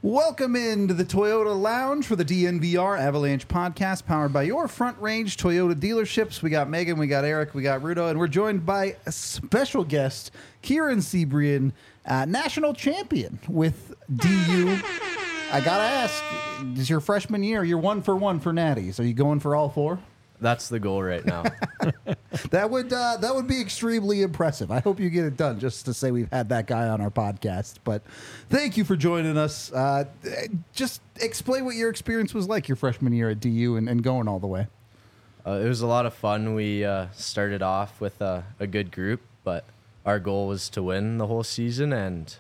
Welcome into the Toyota Lounge for the DNVR Avalanche podcast, powered by your Front Range Toyota dealerships. We got Megan, we got Eric, we got Rudo, and we're joined by a special guest, Kieran Sebrian, national champion with DU. I gotta ask, is your freshman year, you're 1 for 1 for natties. Are you going for all four? That's the goal right now. That would be extremely impressive. I hope you get it done, just to say we've had that guy on our podcast. But thank you for joining us. Just explain what your experience was like your freshman year at DU and going all the way. It was a lot of fun. We started off with a good group, but our goal was to win the whole season, and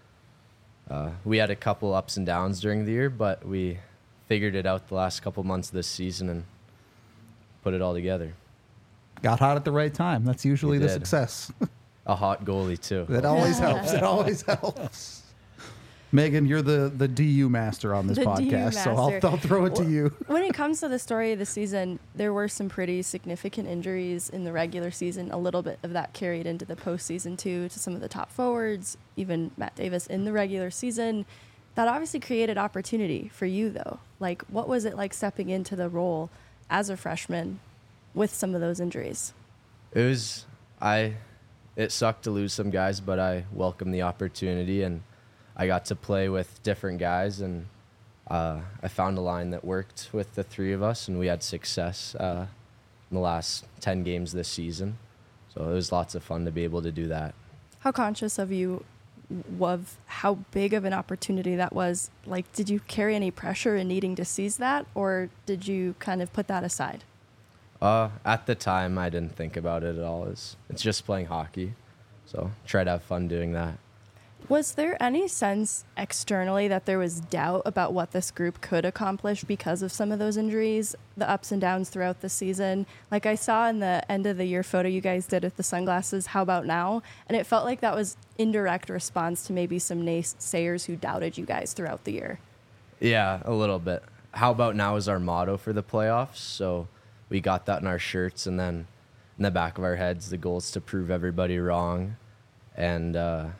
we had a couple ups and downs during the year, but we figured it out the last couple months of this season and put it all together. Got hot at the right time. That's usually We the did. success. A hot goalie, too. That always helps. It always helps. Megan, you're the DU master on this The DU podcast, so master. I'll throw it to you. When it comes to the story of the season, there were some pretty significant injuries in the regular season. A little bit of that carried into the postseason, too, to some of the top forwards, even Matt Davis in the regular season. That obviously created opportunity for you, though. Like, what was it like stepping into the role as a freshman with some of those injuries? It sucked to lose some guys, but I welcomed the opportunity, and I got to play with different guys, and I found a line that worked with the three of us, and we had success in the last 10 games this season. So it was lots of fun to be able to do that. How conscious of how big of an opportunity that was? Like, did you carry any pressure in needing to seize that, or did you kind of put that aside? At the time, I didn't think about it at all. It's just playing hockey, so try to have fun doing that. Was there any sense externally that there was doubt about what this group could accomplish because of some of those injuries, the ups and downs throughout the season? Like I saw in the end of the year photo you guys did with the sunglasses, how about now? And it felt like that was indirect response to maybe some naysayers who doubted you guys throughout the year. Yeah, a little bit. How about now is our motto for the playoffs, so we got that in our shirts, and then in the back of our heads, the goal is to prove everybody wrong. And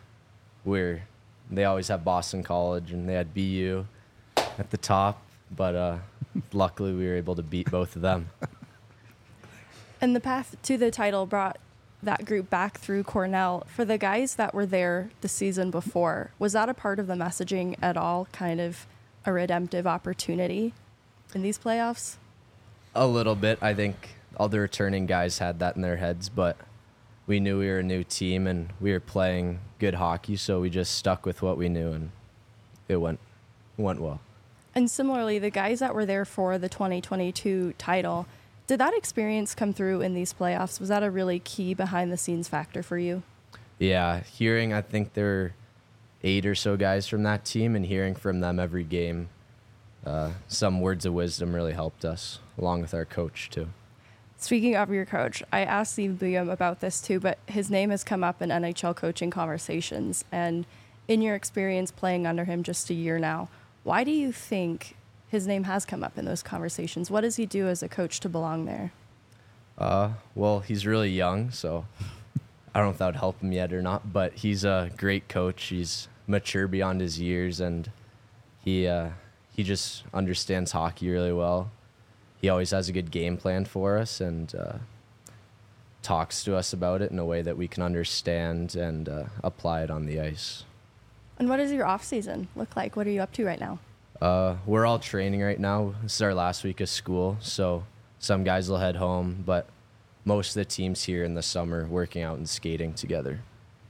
they always have Boston College, and they had BU at the top, but luckily we were able to beat both of them. And the path to the title brought that group back through Cornell. For the guys that were there the season before, was that a part of the messaging at all, kind of a redemptive opportunity in these playoffs? A little bit. I think all the returning guys had that in their heads, but we knew we were a new team and we were playing good hockey, so we just stuck with what we knew, and it went well. And similarly, the guys that were there for the 2022 title, did that experience come through in these playoffs? Was that a really key behind-the-scenes factor for you? Yeah, I think there were 8 or so guys from that team, and hearing from them every game, some words of wisdom really helped us, along with our coach, too. Speaking of your coach, I asked Steve Buium about this too, but his name has come up in NHL coaching conversations. And in your experience playing under him just a year now, why do you think his name has come up in those conversations? What does he do as a coach to belong there? Well, he's really young, so I don't know if that would help him yet or not, but he's a great coach. He's mature beyond his years, and he just understands hockey really well. He always has a good game plan for us and talks to us about it in a way that we can understand and apply it on the ice. And what does your off season look like? What are you up to right now? We're all training right now. This is our last week of school, so some guys will head home, but most of the team's here in the summer working out and skating together.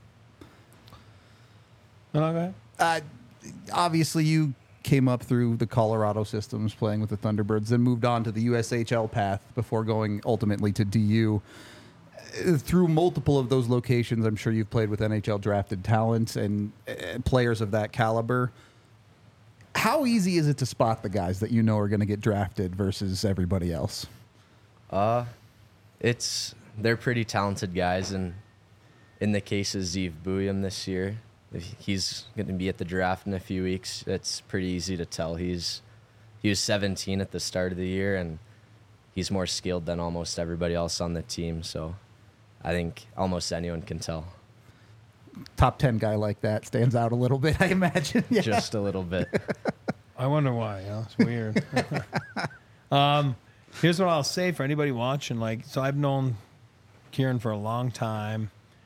Okay. Obviously, you came up through the Colorado systems playing with the Thunderbirds, then moved on to the USHL path before going ultimately to DU. Through multiple of those locations, I'm sure you've played with NHL drafted talent and players of that caliber. How easy is it to spot the guys that you know are going to get drafted versus everybody else? They're pretty talented guys, and in the case of Steve Buium this year, he's going to be at the draft in a few weeks. It's pretty easy to tell. He was 17 at the start of the year, and he's more skilled than almost everybody else on the team. So I think almost anyone can tell. top 10 guy like that stands out a little bit, I imagine. Yeah. Just a little bit. I wonder why. It's weird. Here's what I'll say for anybody watching. Like, so I've known Kieran for a long time,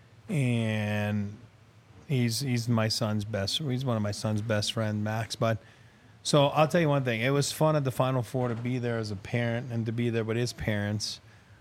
and he's my son's best. He's one of my son's best friend, Max. But so I'll tell you one thing. It was fun at the Final Four to be there as a parent and to be there with his parents.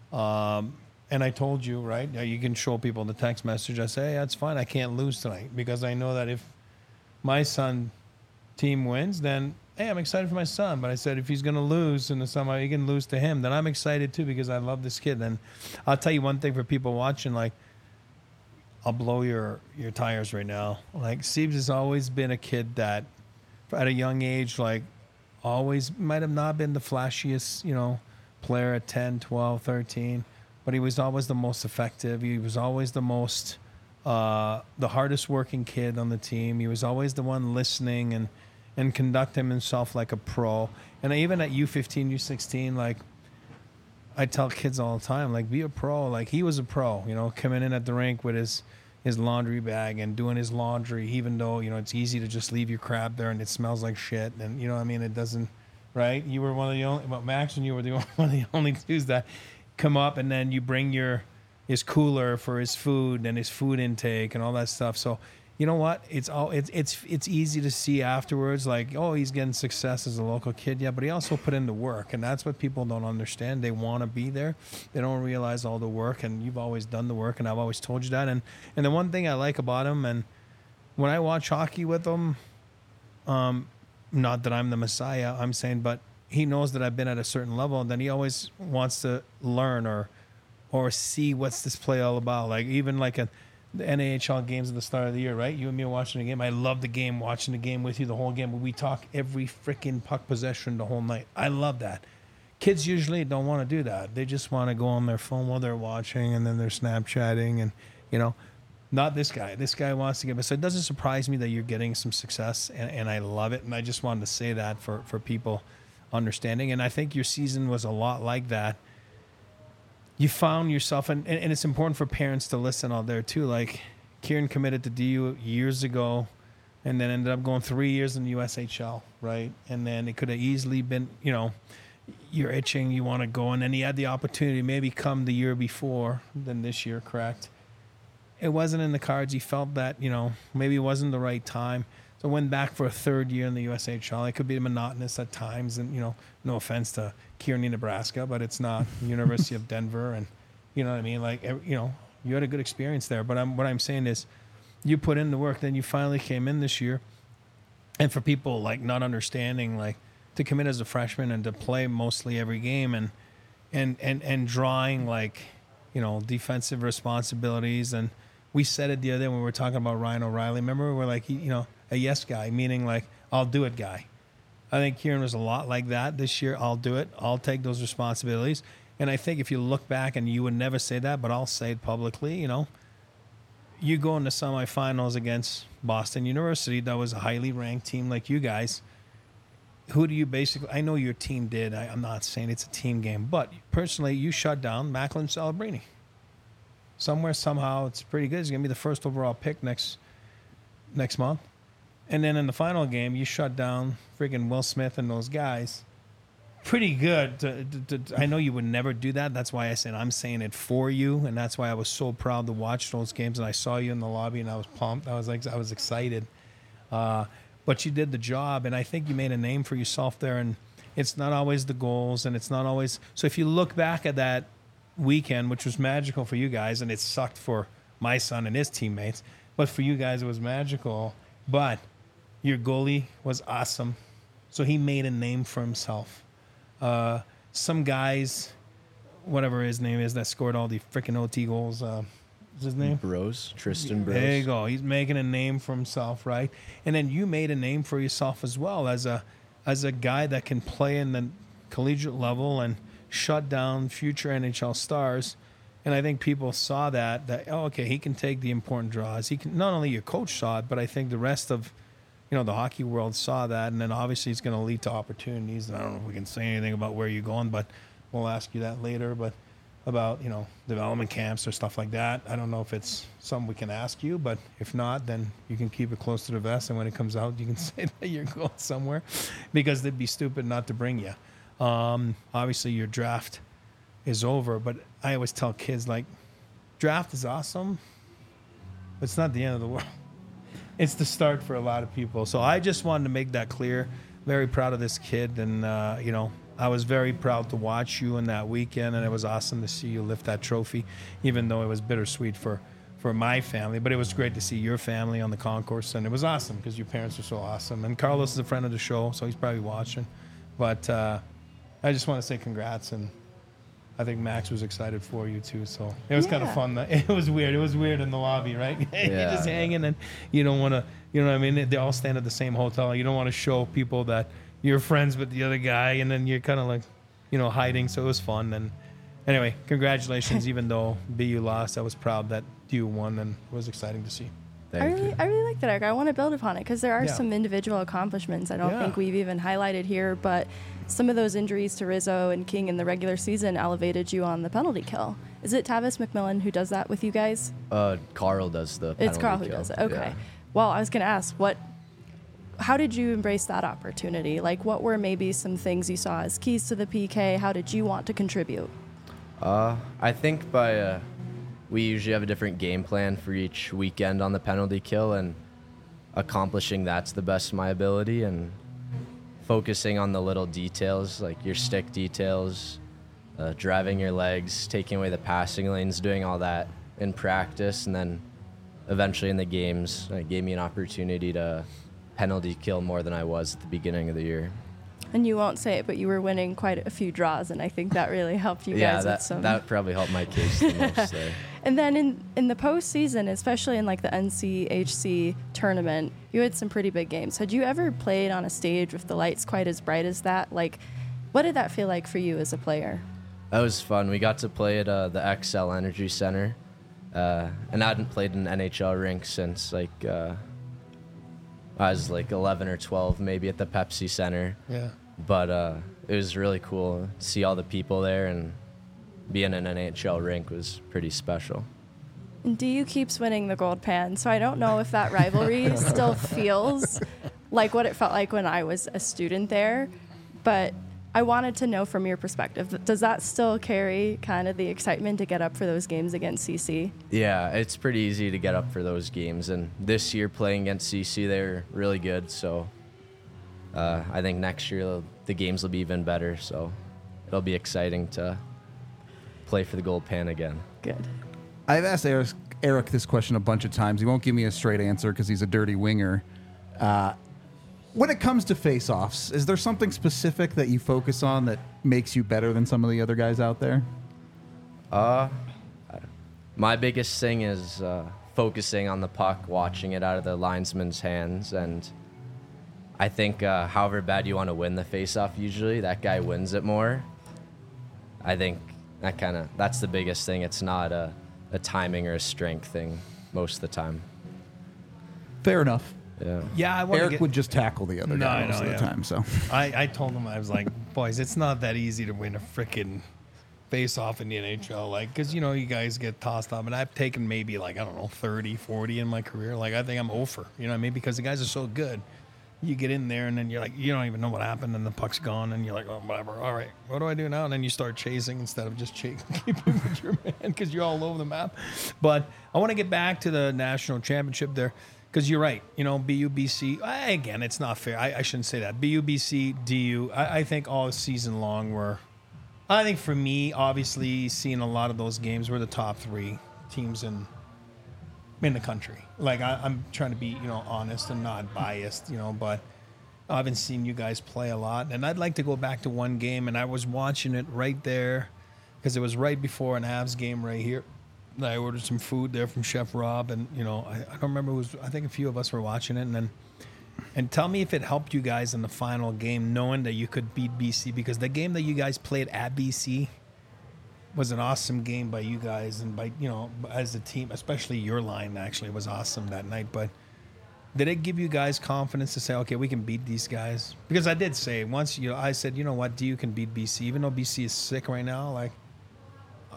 And I told you, right? You can show people the text message. I say, hey, that's fine. I can't lose tonight because I know that if my son team wins, then hey, I'm excited for my son. But I said if he's going to lose in the summer, he can lose to him. Then I'm excited too because I love this kid. And I'll tell you one thing for people watching, like, I'll blow your tires right now. Like, Siebes has always been a kid that, at a young age, like, always might have not been the flashiest, player at 10, 12, 13, but he was always the most effective. He was always the most, the hardest working kid on the team. He was always the one listening and conducting himself like a pro. And even at U15, U16, like, I tell kids all the time, like, be a pro. Like, he was a pro, coming in at the rink with his laundry bag and doing his laundry, even though, it's easy to just leave your crap there and it smells like shit. And, it doesn't, right? You were one of the only, well, Max and you were one of the only twos that come up, and then you bring his cooler for his food and his food intake and all that stuff. So, you know what? It's easy to see afterwards, like, oh, he's getting success as a local kid, yeah, but he also put in the work, and that's what people don't understand. They want to be there, they don't realize all the work, and you've always done the work, and I've always told you that. And the one thing I like about him, and when I watch hockey with him, not that I'm the messiah, I'm saying, but he knows that I've been at a certain level, and then he always wants to learn or see what's this play all about. Like, even like the NAHL games at the start of the year, right? You and me are watching the game. I love the game, watching the game with you the whole game. But we talk every freaking puck possession the whole night. I love that. Kids usually don't want to do that. They just want to go on their phone while they're watching, and then they're Snapchatting, and not this guy. This guy wants to get. So it doesn't surprise me that you're getting some success, and I love it. And I just wanted to say that for people understanding. And I think your season was a lot like that. You found yourself, and it's important for parents to listen out there too. Like, Kieran committed to DU years ago, and then ended up going 3 years in the USHL, right? And then it could have easily been, you're itching, you want to go, and then he had the opportunity maybe come the year before than this year, correct? It wasn't in the cards. He felt that, maybe it wasn't the right time. So went back for a third year in the USHL. It could be monotonous at times, and no offense to Kearney, Nebraska, but it's not University of Denver, and you know what I mean. Like, you had a good experience there. But what I'm saying is, you put in the work. Then you finally came in this year, and for people like not understanding, like, to come in as a freshman and to play mostly every game, and drawing, like, defensive responsibilities. And we said it the other day when we were talking about Ryan O'Reilly. Remember, we're like, a yes guy, meaning like, I'll do it guy. I think Kieran was a lot like that this year. I'll do it. I'll take those responsibilities. And I think if you look back, and you would never say that, but I'll say it publicly, you go into semifinals against Boston University. That was a highly ranked team like you guys. Who do you basically, I know your team did. I'm not saying it's a team game, but personally, you shut down Macklin Celebrini. Somewhere, somehow, it's pretty good. He's going to be the first overall pick next month. And then in the final game, you shut down freaking Will Smith and those guys. Pretty good. I know you would never do that. That's why I said I'm saying it for you, and that's why I was so proud to watch those games. And I saw you in the lobby, and I was pumped. I was excited. But you did the job, and I think you made a name for yourself there. And it's not always the goals, and it's not always. So if you look back at that weekend, which was magical for you guys, and it sucked for my son and his teammates, but for you guys it was magical. But your goalie was awesome, so he made a name for himself. Some guys, whatever his name is, that scored all the freaking OT goals, what's his name? Tristan Brose. There you go. He's making a name for himself, right? And then you made a name for yourself as well as a guy that can play in the collegiate level and shut down future NHL stars. And I think people saw that okay, he can take the important draws. He can, not only your coach saw it, but I think the rest of the hockey world saw that. And then obviously it's going to lead to opportunities. And I don't know if we can say anything about where you're going, but we'll ask you that later. But about, development camps or stuff like that. I don't know if it's something we can ask you, but if not, then you can keep it close to the vest. And when it comes out, you can say that you're going somewhere, because they'd be stupid not to bring you. Obviously, your draft is over, but I always tell kids, like, draft is awesome, but it's not the end of the world. It's the start for a lot of people. So I just wanted to make that clear. Very proud of this kid, and I was very proud to watch you in that weekend, and it was awesome to see you lift that trophy, even though it was bittersweet for my family. But it was great to see your family on the concourse, and it was awesome because your parents are so awesome. And Carlos is a friend of the show, so he's probably watching. But I just want to say congrats, and I think Max was excited for you too. So it was kind of fun. It was weird. It was weird in the lobby, right? You're just hanging, and you don't want to, you know what I mean? They all stand at the same hotel. You don't want to show people that you're friends with the other guy, and then you're kind of like, hiding. So it was fun. And anyway, congratulations. Even though BU lost, I was proud that you won, and it was exciting to see. I really like that, Eric. I want to build upon it because there are some individual accomplishments I don't think we've even highlighted here, but some of those injuries to Rizzo and King in the regular season elevated you on the penalty kill. Is it Tavis McMillan who does that with you guys? Carl does the penalty It's Carl kill. who does it. Okay. Yeah. Well, I was going to ask, how did you embrace that opportunity? Like, what were maybe some things you saw as keys to the PK? How did you want to contribute? I think we usually have a different game plan for each weekend on the penalty kill, and accomplishing that's the best of my ability, and focusing on the little details, like your stick details, driving your legs, taking away the passing lanes, doing all that in practice, and then eventually in the games, it gave me an opportunity to penalty kill more than I was at the beginning of the year. And you won't say it, but you were winning quite a few draws, and I think that really helped you guys with some. That probably helped my case the most there. And then in the postseason, especially in like the NCHC tournament, you had some pretty big games. Had you ever played on a stage with the lights quite as bright as that? Like, what did that feel like for you as a player? That was fun. We got to play at the XL Energy Center, and I hadn't played in an NHL rink since I was like 11 or 12, maybe at the Pepsi Center. Yeah. But it was really cool to see all the people there, and being in an NHL rink was pretty special. And DU keeps winning the gold pan, so I don't know if that rivalry still feels like what it felt like when I was a student there. But I wanted to know from your perspective, does that still carry kind of the excitement to get up for those games against CC? Yeah, it's pretty easy to get up for those games. And this year playing against CC, they're really good. So I think next year the games will be even better. So it'll be exciting to play for the gold pan again. Good. I've asked Eric this question a bunch of times. He won't give me a straight answer because he's a dirty winger. When it comes to face-offs, is there something specific that you focus on that makes you better than some of the other guys out there? My biggest thing is focusing on the puck, watching it out of the linesman's hands, and I think however bad you want to win the face-off, usually that guy wins it more. I think that's the biggest thing. It's not a timing or a strength thing most of the time. Fair enough. Yeah. Eric would just tackle the other guy most of the time. So I told him, I was like, boys, it's not that easy to win a freaking face-off in the NHL. Like, because, you guys get tossed up. And I've taken maybe, 30, 40 in my career. Like, I think I'm over. You know what I mean? Because the guys are so good. You get in there, and then you're like, you don't even know what happened, and the puck's gone, and you're like, oh, whatever. All right, what do I do now? And then you start chasing instead of just keeping with your man because you're all over the map. But I want to get back to the national championship there. Because you're right, BUBC, again, it's not fair. I shouldn't say that. BUBC, DU, I think all season long I think for me, obviously, seeing a lot of those games, we're the top 3 teams in the country. Like, I'm trying to be, honest and not biased, but I haven't seen you guys play a lot. And I'd like to go back to one game, and I was watching it right there because it was right before an Avs game right here. I ordered some food there from Chef Rob, and I don't remember. I think a few of us were watching it, and tell me if it helped you guys in the final game, knowing that you could beat BC, because the game that you guys played at BC was an awesome game by you guys, and by as a team, especially your line actually was awesome that night. But did it give you guys confidence to say, okay, we can beat these guys? Because I did say once, I said, what, DU can beat BC, even though BC is sick right now, like.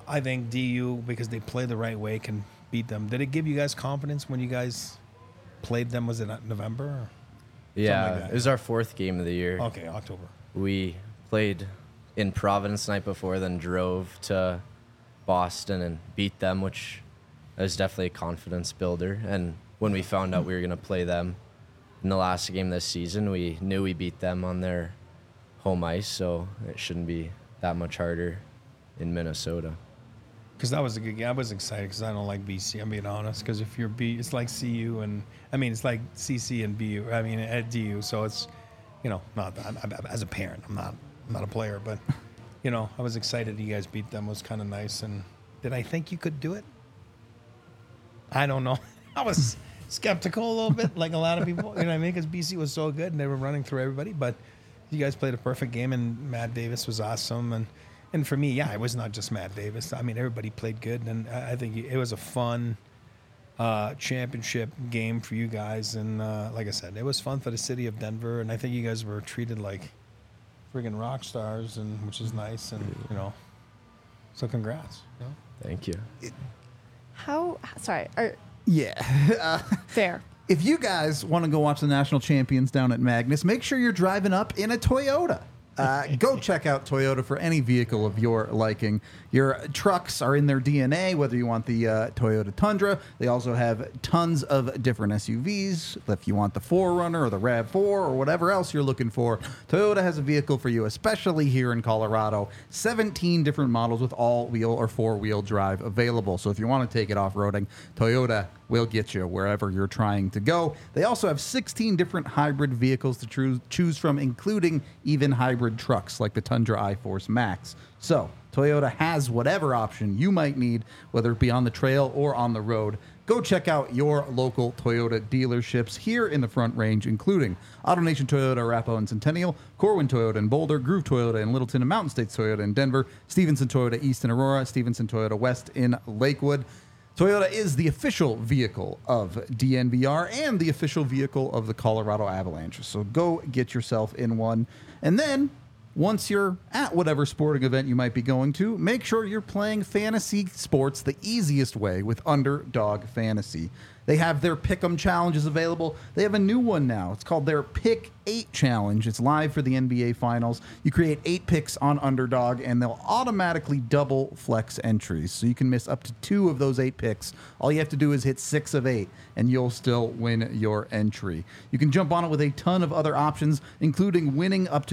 I think DU, because they play the right way, can beat them. Did it give you guys confidence when you guys played them? Was it November? Or? Yeah, like that. it was our 4th game of the year. Okay, October. We played in Providence the night before, then drove to Boston and beat them, which was definitely a confidence builder. And when we found out we were going to play them in the last game this season, we knew we beat them on their home ice, so it shouldn't be that much harder in Minnesota. Because that was a good game. I was excited because I don't like BC. I'm being honest. Because if you're B, it's like CU and it's like CC and BU. At DU. So it's, not that. As a parent, I'm not a player, but I was excited you guys beat them. It was kind of nice. And did I think you could do it? I don't know. I was skeptical a little bit, like a lot of people. You know what I mean? Because BC was so good and they were running through everybody. But you guys played a perfect game, and Matt Davis was awesome. And for me, it was not just Matt Davis. Everybody played good, and I think it was a fun championship game for you guys. And like I said, it was fun for the city of Denver, and I think you guys were treated like friggin' rock stars, and which is nice. And so congrats. Thank you. Yeah. Fair. If you guys want to go watch the national champions down at Magnus, make sure you're driving up in a Toyota. Go check out Toyota for any vehicle of your liking. Your trucks are in their DNA, whether you want the Toyota Tundra. They also have tons of different SUVs. If you want the 4Runner or the RAV4 or whatever else you're looking for, Toyota has a vehicle for you, especially here in Colorado. 17 different models with all-wheel or four-wheel drive available. So if you want to take it off-roading, Toyota will get you wherever you're trying to go. They also have 16 different hybrid vehicles to choose from, including even hybrid trucks like the Tundra iForce Max. So Toyota has whatever option you might need, whether it be on the trail or on the road. Go check out your local Toyota dealerships here in the Front Range, including AutoNation Toyota, Arapahoe and Centennial, Corwin Toyota in Boulder, Groove Toyota in Littleton, and Mountain States Toyota in Denver, Stevenson Toyota East in Aurora, Stevenson Toyota West in Lakewood. Toyota is the official vehicle of DNVR and the official vehicle of the Colorado Avalanche. So go get yourself in one. And then, once you're at whatever sporting event you might be going to, make sure you're playing fantasy sports the easiest way with Underdog Fantasy. They have their Pick'em challenges available. They have a new one now. It's called their Pick 8 challenge. It's live for the NBA Finals. You create 8 picks on Underdog, and they'll automatically double flex entries. So you can miss up to 2 of those 8 picks. All you have to do is hit 6 of 8, and you'll still win your entry. You can jump on it with a ton of other options, including winning up to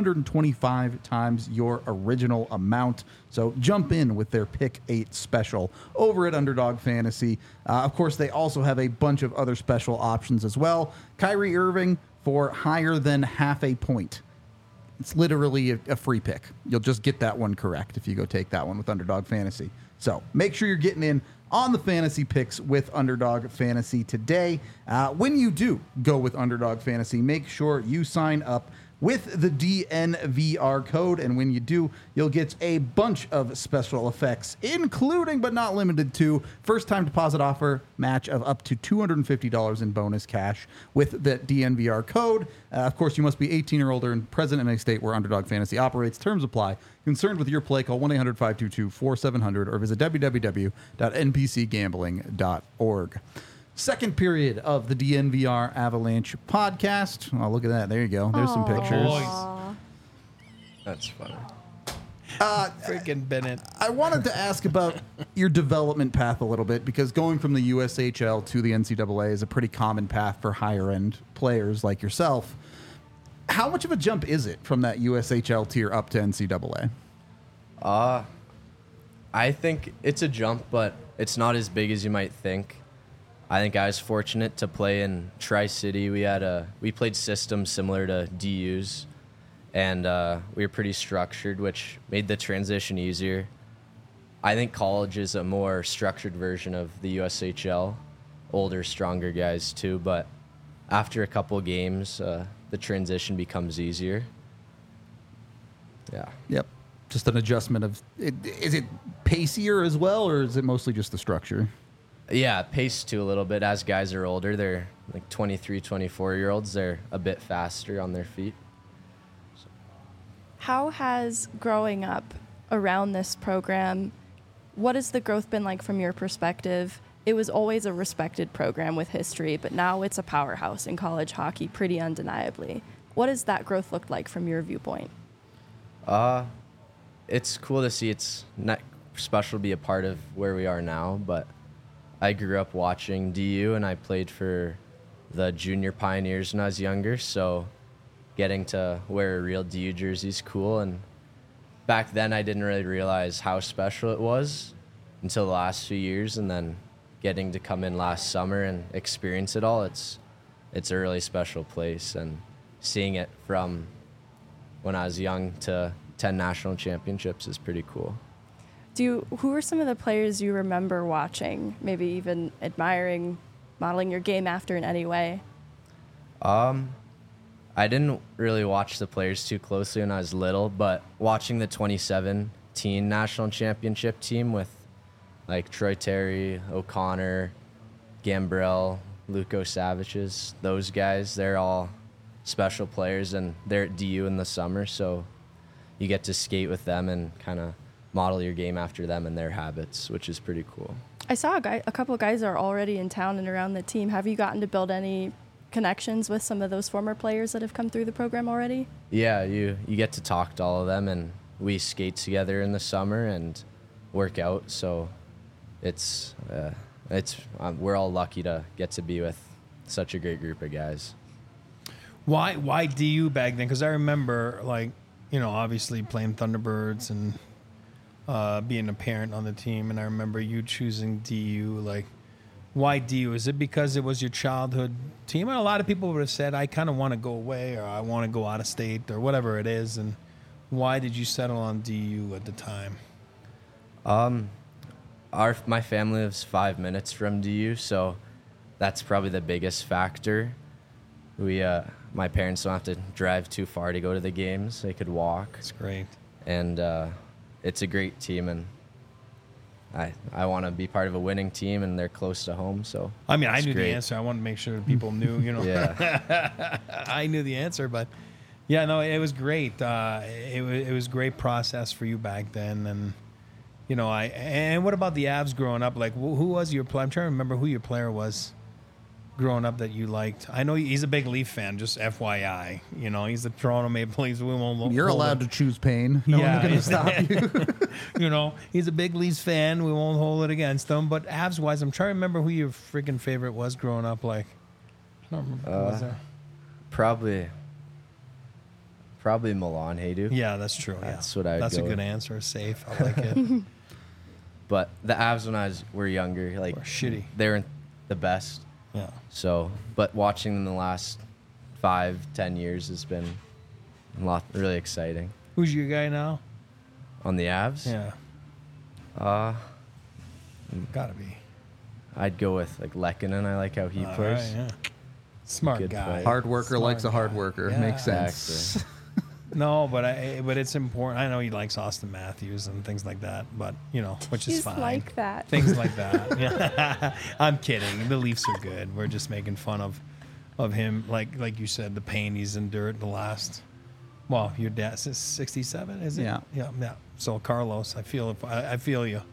325 times your original amount. So jump in with their Pick 8 special over at Underdog Fantasy. Of course, they also have a bunch of other special options as well. Kyrie Irving for higher than half a point. It's literally a free pick. You'll just get that one correct if you go take that one with Underdog Fantasy. So make sure you're getting in on the fantasy picks with Underdog Fantasy today. When you do go with Underdog Fantasy, make sure you sign up with the DNVR code, and when you do, you'll get a bunch of special effects, including but not limited to first-time deposit offer match of up to $250 in bonus cash with the DNVR code. Of course, you must be 18 or older and present in a state where Underdog Fantasy operates. Terms apply. Concerned with your play, call 1-800-522-4700 or visit www.npcgambling.org. Second period of the DNVR Avalanche podcast. Oh, look at that. There you go. There's some pictures. Aw. That's funny. Freaking Bennett. I wanted to ask about your development path a little bit, because going from the USHL to the NCAA is a pretty common path for higher-end players like yourself. How much of a jump is it from that USHL tier up to NCAA? I think it's a jump, but it's not as big as you might think. I think I was fortunate to play in Tri-City. We played systems similar to DU's, and we were pretty structured, which made the transition easier. I think college is a more structured version of the USHL, older, stronger guys too, but after a couple games, the transition becomes easier. Yeah. Yep. Just an adjustment of is it pacier as well, or is it mostly just the structure? Yeah, pace too a little bit. As guys are older, they're like 23, 24-year-olds. They're a bit faster on their feet. How has growing up around this program What has the growth been like from your perspective? It was always a respected program with history, but now it's a powerhouse in college hockey pretty undeniably. What has that growth looked like from your viewpoint? It's cool to see. It's not special to be a part of where we are now, but I grew up watching DU, and I played for the Junior Pioneers when I was younger, so getting to wear a real DU jersey is cool. And back then I didn't really realize how special it was until the last few years, and then getting to come in last summer and experience it all, it's a really special place. And seeing it from when I was young to 10 national championships is pretty cool. Who are some of the players you remember watching, maybe even admiring, modeling your game after in any way? I didn't really watch the players too closely when I was little, but watching the 2017 national championship team with like Troy Terry, O'Connor, Gambrell, Luko Savic's, those guys, they're all special players, and they're at DU in the summer, so you get to skate with them and kind of model your game after them and their habits, which is pretty cool. I saw a couple of guys are already in town and around the team. Have you gotten to build any connections with some of those former players that have come through the program already? Yeah, you get to talk to all of them, and we skate together in the summer and work out, so we're all lucky to get to be with such a great group of guys. Why DU back then? Because I remember, like, you know, obviously playing Thunderbirds and being a parent on the team, and I remember you choosing DU. Like, why DU? Is it because it was your childhood team? And a lot of people would have said, I kind of want to go away, or I want to go out of state, or whatever it is. And why did you settle on DU at the time? My family lives 5 minutes from DU, so that's probably the biggest factor. My parents don't have to drive too far to go to the games. They could walk. That's great. And it's a great team, and I want to be part of a winning team, and they're close to home. So I mean, I knew great. the answer. I wanted to make sure that people knew, you know. Yeah. I knew the answer, but yeah, no, it was great. It was great process for you back then, and you know, and what about the Avs growing up? Like, who was your player? I'm trying to remember who your player was growing up that you liked. I know he's a big Leaf fan, just FYI. You know, he's the Toronto Maple Leafs. You're allowed to choose pain. No one's going to stop you. You know, he's a big Leafs fan. We won't hold it against him. But Avs-wise, I'm trying to remember who your freaking favorite was growing up. Like, I don't remember. Who was there? Probably Milan Hayduk. Yeah, that's true. That's yeah. what I would That's go a good with. answer. Safe. I like it. But the Avs when were younger, like Were shitty. They weren't the best. Yeah. So, but watching them the last 5-10 years has been really exciting. Who's your guy now? On the Avs, Yeah. Gotta be. I'd go with like Lehkonen. I like how he All plays. right, yeah. Smart Good guy. fight. Hard worker Smart likes a hard guy. worker. Yeah. Makes sense. Exactly. No, but it's important. I know he likes Austin Matthews and things like that, but you know, which is He's fine. like that. Things like that. Yeah. I'm kidding. The Leafs are good. We're just making fun of him. Like you said, the pain he's endured the last. Well, your dad's 67, is it? Yeah. Yeah. So Carlos, I feel you.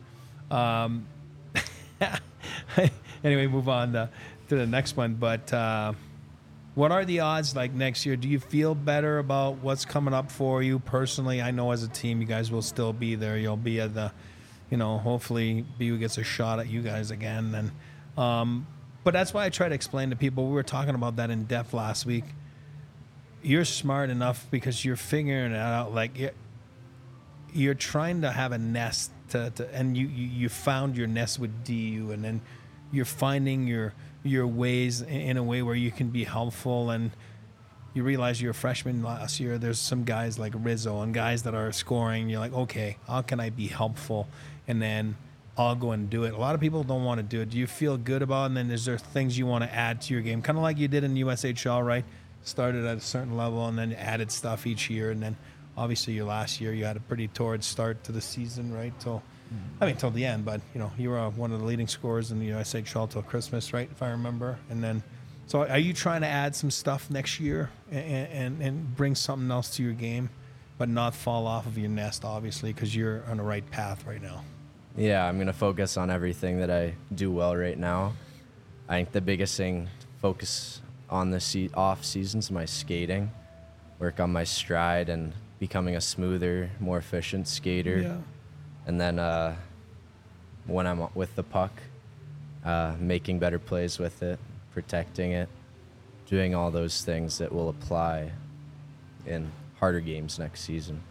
Anyway, move on to the next one. But what are the odds like next year? Do you feel better about what's coming up for you personally? I know as a team, you guys will still be there. You'll be at the, you know, hopefully BU gets a shot at you guys again. And but that's why I try to explain to people. We were talking about that in depth last week. You're smart enough because you're figuring it out. Like you're trying to have a nest and you found your nest with DU, and then you're finding your ways in a way where you can be helpful. And you realize you're a freshman last year. There's some guys like Rizzo and guys that are scoring. You're like, okay, how can I be helpful? And then I'll go and do it. A lot of people don't want to do it. Do you feel good about it? And then is there things you want to add to your game? Kind of like you did in USHL, right? Started at a certain level and then added stuff each year. And then obviously your last year, you had a pretty torrid start to the season, right? Till the end, but you know, you were one of the leading scorers in the USHL till Christmas, right? If I remember. And then, so are you trying to add some stuff next year and bring something else to your game, but not fall off of your nest, obviously, because you're on the right path right now? Yeah, I'm going to focus on everything that I do well right now. I think the biggest thing, focus on the off seasons, my skating, work on my stride and becoming a smoother, more efficient skater. Yeah. And then when I'm with the puck, making better plays with it, protecting it, doing all those things that will apply in harder games next season.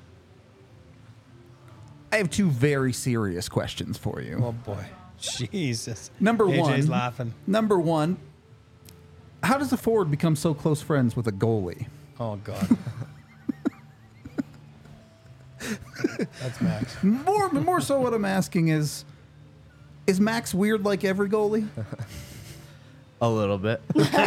I have two very serious questions for you. Oh boy, Jesus. Number AJ's one. laughing. Number one, how does a forward become so close friends with a goalie? Oh God. That's Max. More so what I'm asking is Max weird like every goalie? A little bit.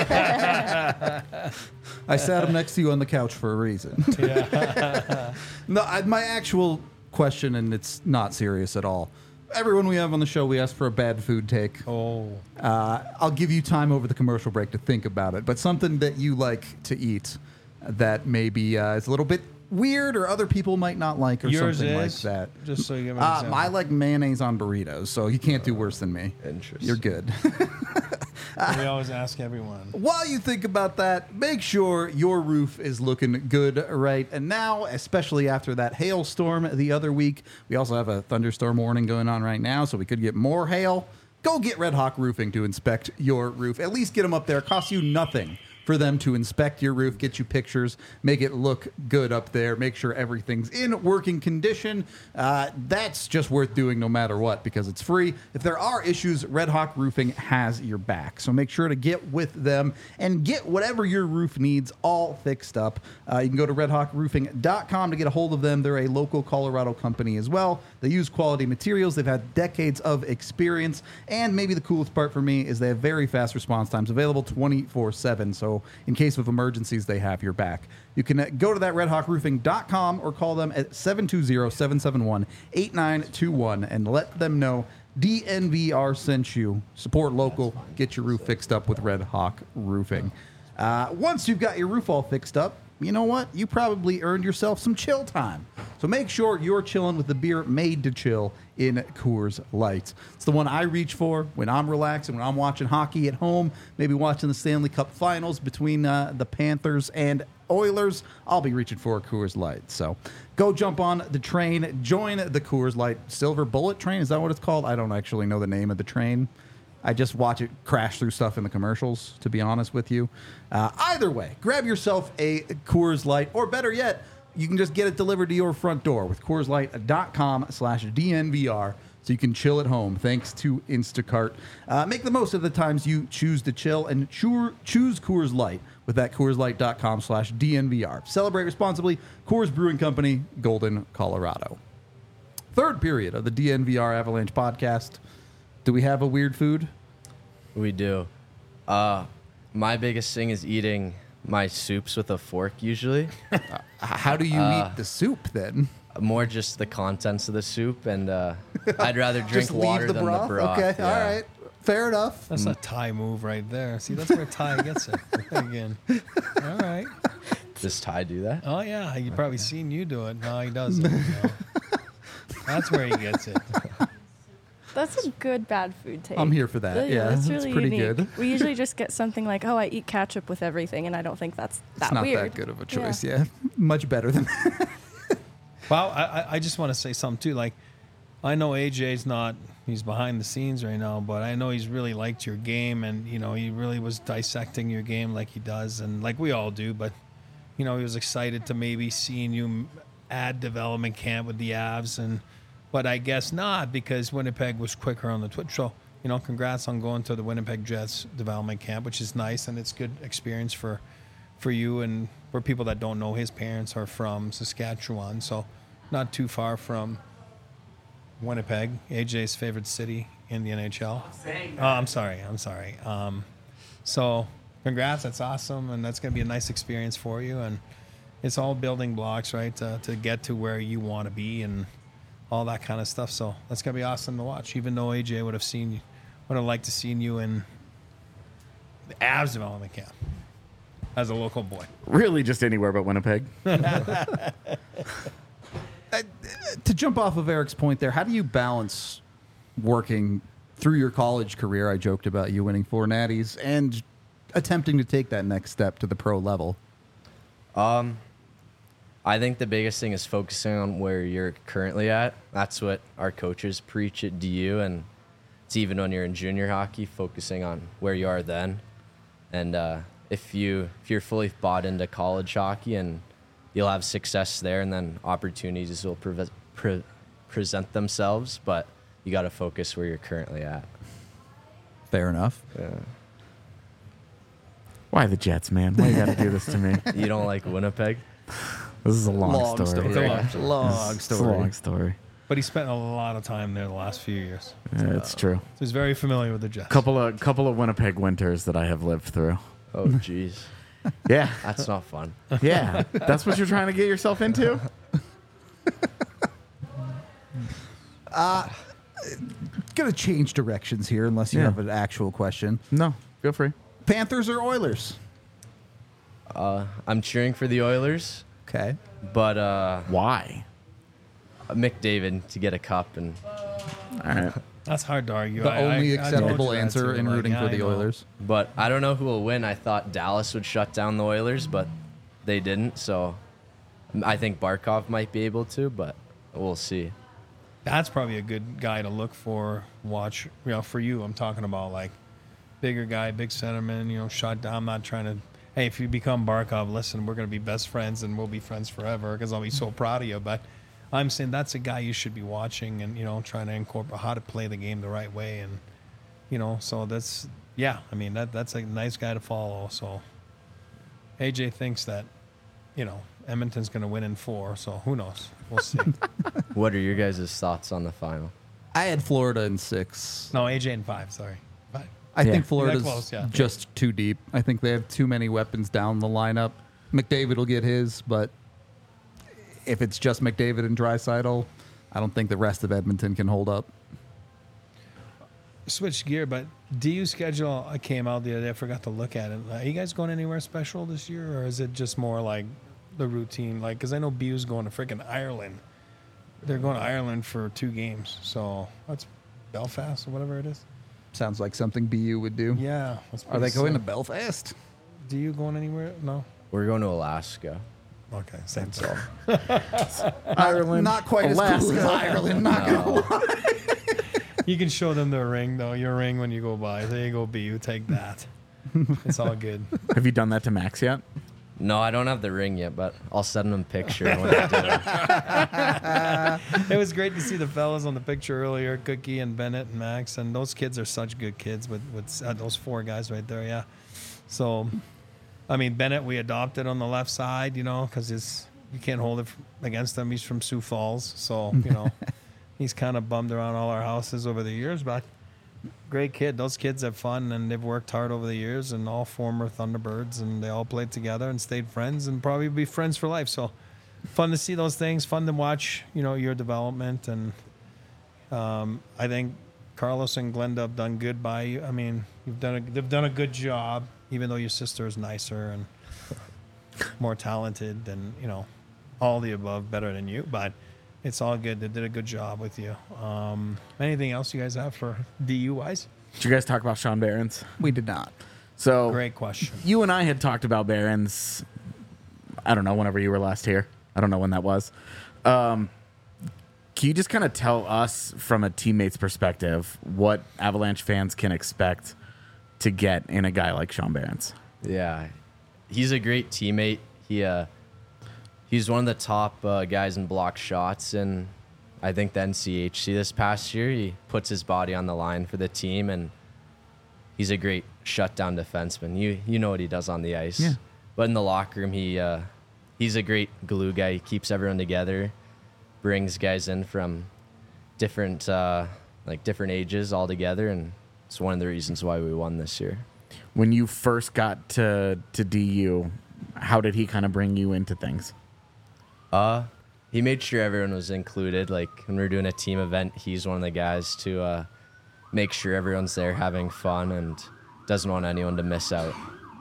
I sat him next to you on the couch for a reason. Yeah. No, my actual question, and it's not serious at all. Everyone we have on the show, we ask for a bad food take. Oh. I'll give you time over the commercial break to think about it, but something that you like to eat that maybe is a little bit weird or other people might not like or Yours something is? like that. Just so you give me an example. I like mayonnaise on burritos, so you can't do worse than me. Interesting. You're good. We always ask everyone. While you think about that, make sure your roof is looking good right and now, especially after that hailstorm the other week. We also have a thunderstorm warning going on right now, so we could get more hail. Go get Red Hawk Roofing to inspect your roof. At least get them up there. It costs you nothing for them to inspect your roof, get you pictures, make it look good up there, make sure everything's in working condition. That's just worth doing no matter what because it's free. If there are issues, Red Hawk Roofing has your back. So make sure to get with them and get whatever your roof needs all fixed up. You can go to redhawkroofing.com to get a hold of them. They're a local Colorado company as well. They use quality materials. They've had decades of experience. And maybe the coolest part for me is they have very fast response times available 24/7. So in case of emergencies, they have your back. You can go to that redhawkroofing.com or call them at 720-771-8921 and let them know DNVR sent you. Support local. Get your roof fixed up with Red Hawk Roofing. Once you've got your roof all fixed up, you know what? You probably earned yourself some chill time. So make sure you're chilling with the beer made to chill in Coors Light. It's the one I reach for when I'm relaxing, when I'm watching hockey at home, maybe watching the Stanley Cup Finals between the Panthers and Oilers. I'll be reaching for a Coors Light. So go jump on the train. Join the Coors Light Silver Bullet Train. Is that what it's called? I don't actually know the name of the train. I just watch it crash through stuff in the commercials, to be honest with you. Either way, grab yourself a Coors Light, or better yet, you can just get it delivered to your front door with CoorsLight.com/DNVR so you can chill at home thanks to Instacart. Make the most of the times you choose to chill and choose Coors Light with that CoorsLight.com/DNVR. Celebrate responsibly. Coors Brewing Company, Golden, Colorado. Third period of the DNVR Avalanche podcast. Do we have a weird food? We do. My biggest thing is eating my soups with a fork usually. How do you eat the soup then? More just the contents of the soup, and I'd rather drink Just leave water the than broth? the broth. Okay, yeah. all right. Fair enough. That's a Ty move right there. See, that's where Ty gets it again. All right. Does Ty do that? Oh yeah, you probably seen you do it. No, he doesn't. No. That's where he gets it. That's a good bad food take. I'm here for that. Yeah, that's it's really pretty unique. good. We usually just get something like, "Oh, I eat ketchup with everything," and I don't think that's that It's not weird. that good of a choice. Yeah, much better than that. Well, I just want to say something too. Like, I know AJ's not, he's behind the scenes right now, but I know he's really liked your game, and you know he really was dissecting your game like he does, and like we all do. But you know he was excited to maybe seeing you add development camp with the Avs, but I guess not because Winnipeg was quicker on the Twitch. So you know, congrats on going to the Winnipeg Jets development camp, which is nice, and it's good experience for you and for people that don't know. His parents are from Saskatchewan, so not too far from Winnipeg, AJ's favorite city in the NHL. I'm sorry. So congrats, that's awesome, and that's going to be a nice experience for you. And it's all building blocks, right, to get to where you want to be and all that kind of stuff. So that's going to be awesome to watch, even though AJ would have liked to seen you in the Avs development camp as a local boy. Really, just anywhere but Winnipeg. To jump off of Eric's point there, how do you balance working through your college career. I joked about you winning 4 natties and attempting to take that next step to the pro level. I think the biggest thing is focusing on where you're currently at. That's what our coaches preach at DU, and it's even when you're in junior hockey, focusing on where you are then. And if you're fully bought into college hockey, and you'll have success there, and then opportunities will present themselves, but you got to focus where you're currently at. Fair enough. Yeah. Why the Jets, man? Why you got to do this to me? You don't like Winnipeg? This is a long story. It's a long Right? Long It's a story. long story. But he spent a lot of time there the last few years. Yeah, it's true. So he's very familiar with the Jets. Couple of Winnipeg winters that I have lived through. Oh, jeez. Yeah, That's not fun. yeah. That's what you're trying to get yourself into. Gonna change directions here unless you Yeah. have an actual question. No, feel free. Panthers or Oilers? I'm cheering for the Oilers, Okay. but Why? McDavid to get a cup, and All right. That's hard to argue. The only I told acceptable you that answer too, in like, rooting yeah, for I the know. Oilers. but I don't know who will win. I thought Dallas would shut down the Oilers, but they didn't. So I think Barkov might be able to, but we'll see. That's probably a good guy to look for, watch. For you, I'm talking about like bigger guy, big centerman, shut down. I'm not trying to, hey, if you become Barkov, listen, we're going to be best friends and we'll be friends forever because I'll be so proud of you. But I'm saying that's a guy you should be watching and, trying to incorporate how to play the game the right way. And, so that's, yeah, I mean, that's a nice guy to follow. So AJ thinks that, Edmonton's going to win in 4. So who knows? We'll see. What are your guys' thoughts on the final? I had Florida in 6. No, AJ in 5, sorry. 5. I Yeah. think Florida's close, yeah. just too deep. I think they have too many weapons down the lineup. McDavid will get his, but if it's just McDavid and Draisaitl, I don't think the rest of Edmonton can hold up. Switch gear, but DU schedule came out the other day. I forgot to look at it. Are you guys going anywhere special this year, or is it just more like the routine? Like, because I know BU's going to freaking Ireland. They're going to Ireland for 2 games, so that's Belfast or whatever it is. Sounds like something BU would do. Yeah, that's Are they pretty going to sick. Belfast? DU going anywhere? No. We're going to Alaska. Okay, same That's thing. all. Ireland, Not quite as cool as Ireland. Not gonna lie. You can show them their ring though. Your ring when you go by. There you go, BU. Take that. It's all good. Have you done that to Max yet? No, I don't have the ring yet, but I'll send them a picture when I do. It was great to see the fellas on the picture earlier, Cookie and Bennett and Max, and those kids are such good kids with those 4 guys right there. Yeah. So, I mean, Bennett we adopted on the left side, because you can't hold it against him. He's from Sioux Falls, so he's kind of bummed around all our houses over the years, but great kid. Those kids have fun and they've worked hard over the years, and all former Thunderbirds, and they all played together and stayed friends and probably be friends for life. So fun to see those things, fun to watch, your development. And I think Carlos and Glenda have done good by you. I mean, they've done a good job, even though your sister is nicer and more talented and, all the above, better than you. But it's all good. They did a good job with you. Anything else you guys have for DU-wise? Did you guys talk about Sean Barons? We did not. So Great question. you and I had talked about Barons, I don't know, whenever you were last here. I don't know when that was. Can you just kind of tell us from a teammate's perspective what Avalanche fans can expect to get in a guy like Sean Barons? Yeah, he's a great teammate. He's one of the top guys in block shots, and I think the NCHC this past year, he puts his body on the line for the team, and he's a great shutdown defenseman. You know what he does on the ice. Yeah. But in the locker room, he's a great glue guy. He keeps everyone together, brings guys in from different ages all together, and it's one of the reasons why we won this year. When you first got to DU, how did he kind of bring you into things? He made sure everyone was included. Like when we were doing a team event, he's one of the guys to make sure everyone's there having fun and doesn't want anyone to miss out.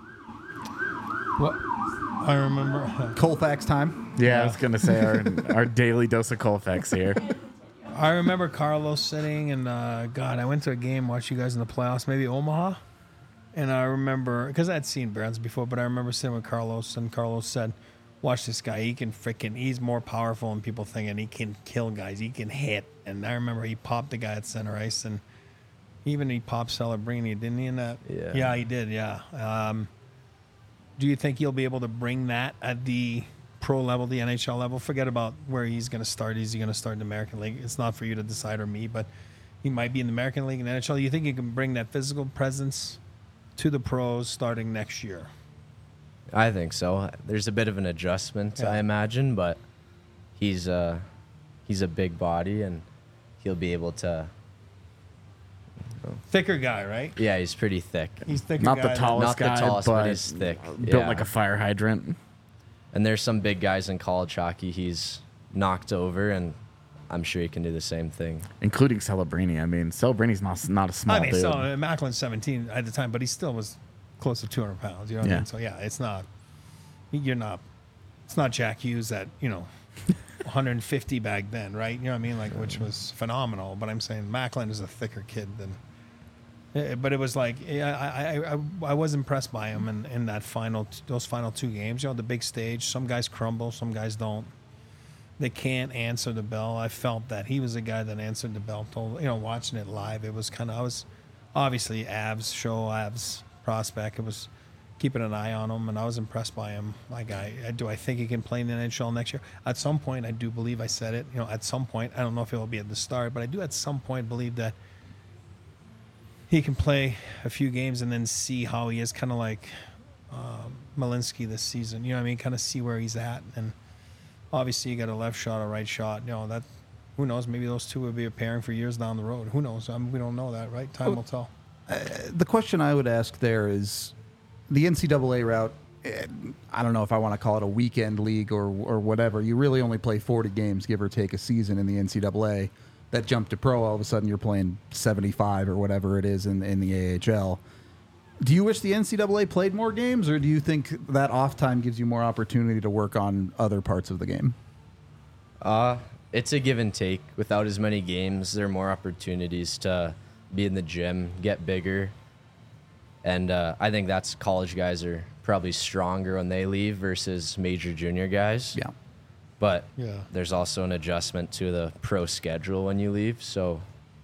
What? I remember. Colfax time. Yeah, I was going to say our daily dose of Colfax here. I remember Carlos sitting, and God, I went to a game, watched you guys in the playoffs, maybe Omaha. And I remember, because I'd seen Barons before, but I remember sitting with Carlos, and Carlos said, watch this guy. He's more powerful than people think, and he can kill guys. He can hit. And I remember he popped the guy at center ice, and even he popped Celebrini, didn't he, in that? Yeah. Yeah, he did, yeah. Do you think he'll be able to bring that at the pro level, the NHL level? Forget about where he's going to start. Is he going to start in the American League? It's not for you to decide or me, but he might be in the American League and NHL. You think he can bring that physical presence to the pros starting next year? I think so. There's a bit of an adjustment, Yeah. I imagine, but he's a big body, and he'll be able to. Thicker guy, right? Yeah, he's pretty thick. He's thicker Not guy the than- tallest Not guy, the tallest, but but he's thick. built Yeah. like a fire hydrant. And there's some big guys in college hockey he's knocked over, and I'm sure he can do the same thing. Including Celebrini. I mean, Celebrini's not a small I mean, dude. so Macklin's 17 at the time, but he still was close to 200 pounds. You know what I Yeah. mean? So yeah, it's not. It's not Jack Hughes at 150 back then, right? You know what I mean? Like, which was phenomenal. But I'm saying Macklin is a thicker kid than. But it was like I was impressed by him in that those final two games. The big stage. Some guys crumble, some guys don't. They can't answer the bell. I felt that he was a guy that answered the bell. Watching it live, it was I was obviously Avs prospect. It was keeping an eye on him, and I was impressed by him. Do I think he can play in the NHL next year? At some point, I do believe I said it. At some point, I don't know if it will be at the start, but I do at some point believe that he can play a few games and then see how he is, kind of like Malinsky this season. You know what I mean? Kind of see where he's at. And obviously, you got a left shot, a right shot. That who knows? Maybe those two will be pairing for years down the road. Who knows? We don't know that, right? Time will tell. The question I would ask there is the NCAA route. I don't know if I want to call it a weekend league or whatever. You really only play 40 games, give or take, a season in the NCAA. That jump to pro, all of a sudden you're playing 75 or whatever it is in the AHL. Do you wish the NCAA played more games, or do you think that off time gives you more opportunity to work on other parts of the game? It's a give and take. Without as many games, there are more opportunities to be in the gym, get bigger. And I think that's college guys are probably stronger when they leave versus major junior guys. Yeah. But Yeah. there's also an adjustment to the pro schedule when you leave. So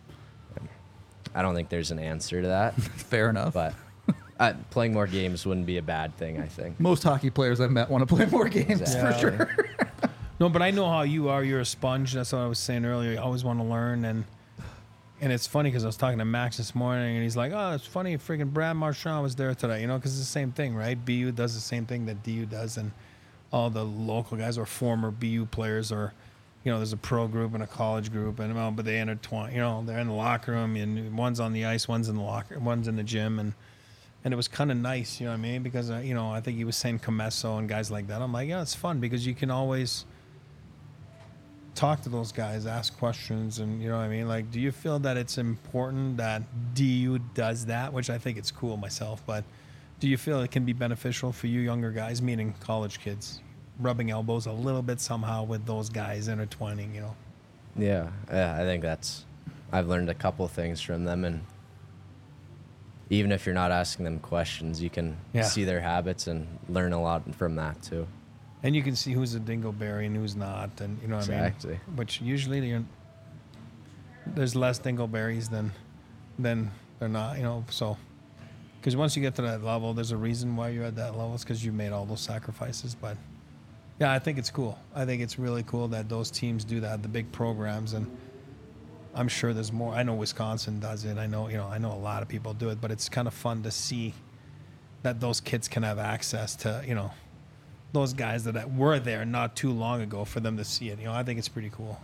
I don't think there's an answer to that. Fair enough. But playing more games wouldn't be a bad thing, I think. Most hockey players I've met want to play more games Exactly. for sure. No, but I know how you are. You're a sponge. That's what I was saying earlier. You always want to learn. And it's funny because I was talking to Max this morning, and he's like, oh, it's funny. Freaking Brad Marchand was there today, because it's the same thing, right? BU does the same thing that DU does. And all the local guys are former BU players, or, there's a pro group and a college group, and but they intertwine. They're in the locker room, and one's on the ice, one's in the locker, one's in the gym, and it was kind of nice, you know what I mean? Because I think he was saying Comesso and guys like that. I'm like, yeah, it's fun because you can always talk to those guys, ask questions, and you know what I mean? Like, do you feel that it's important that DU does that? Which I think it's cool myself, but do you feel it can be beneficial for you younger guys, meaning college kids, rubbing elbows a little bit somehow with those guys intertwining, Yeah, I think I've learned a couple things from them, and even if you're not asking them questions, you can see their habits and learn a lot from that too. And you can see who's a dingleberry and who's not, and you know what Exactly. I mean? Which usually there's less dingleberries than they're not, so. Because once you get to that level, there's a reason why you're at that level. It's because you made all those sacrifices. But yeah, I think it's cool. I think it's really cool that those teams do that, the big programs, and I'm sure there's more. I know Wisconsin does it. I know a lot of people do it, but it's kind of fun to see that those kids can have access to, those guys that were there not too long ago, for them to see it. I think it's pretty cool.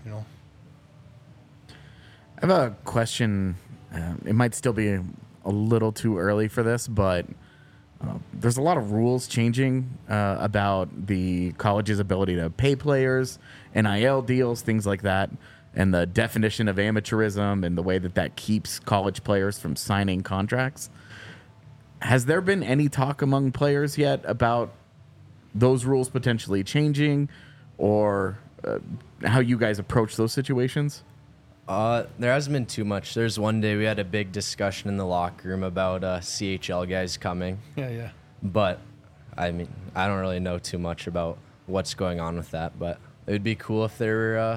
I have a question. It might still be a little too early for this, but there's a lot of rules changing about the college's ability to pay players, NIL deals, things like that, and the definition of amateurism and the way that keeps college players from signing contracts. Has there been any talk among players yet about those rules potentially changing, or how you guys approach those situations? There hasn't been too much. There's one day we had a big discussion in the locker room about CHL guys coming, Yeah. but I mean, I don't really know too much about what's going on with that, but it would be cool if there were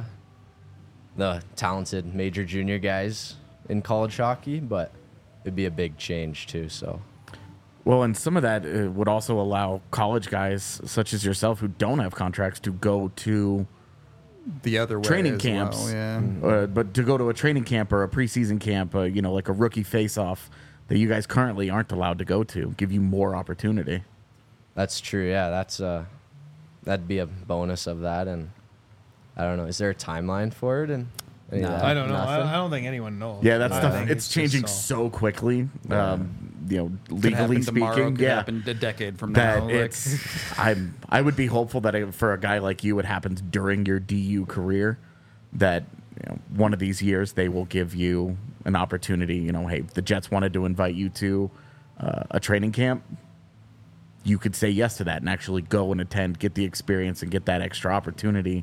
the talented major junior guys in college hockey, but it'd be a big change too, so. Well, and some of that would also allow college guys such as yourself who don't have contracts to go to The other way training as camps. well, yeah. But to go to a training camp or a preseason camp, like a rookie face-off that you guys currently aren't allowed to go to, give you more opportunity. That's true. Yeah, that'd be a bonus of that, and I don't know. Is there a timeline for it? And any of that? I don't know. Nothing? I don't think anyone knows. Yeah, that I stuff, think it's just changing so quickly. Could happen Legally tomorrow, speaking, could yeah. happen a decade from That now. like- it's, I would be hopeful that for a guy like you, it happens during your DU career. That one of these years they will give you an opportunity. Hey, the Jets wanted to invite you to a training camp. You could say yes to that and actually go and attend, get the experience, and get that extra opportunity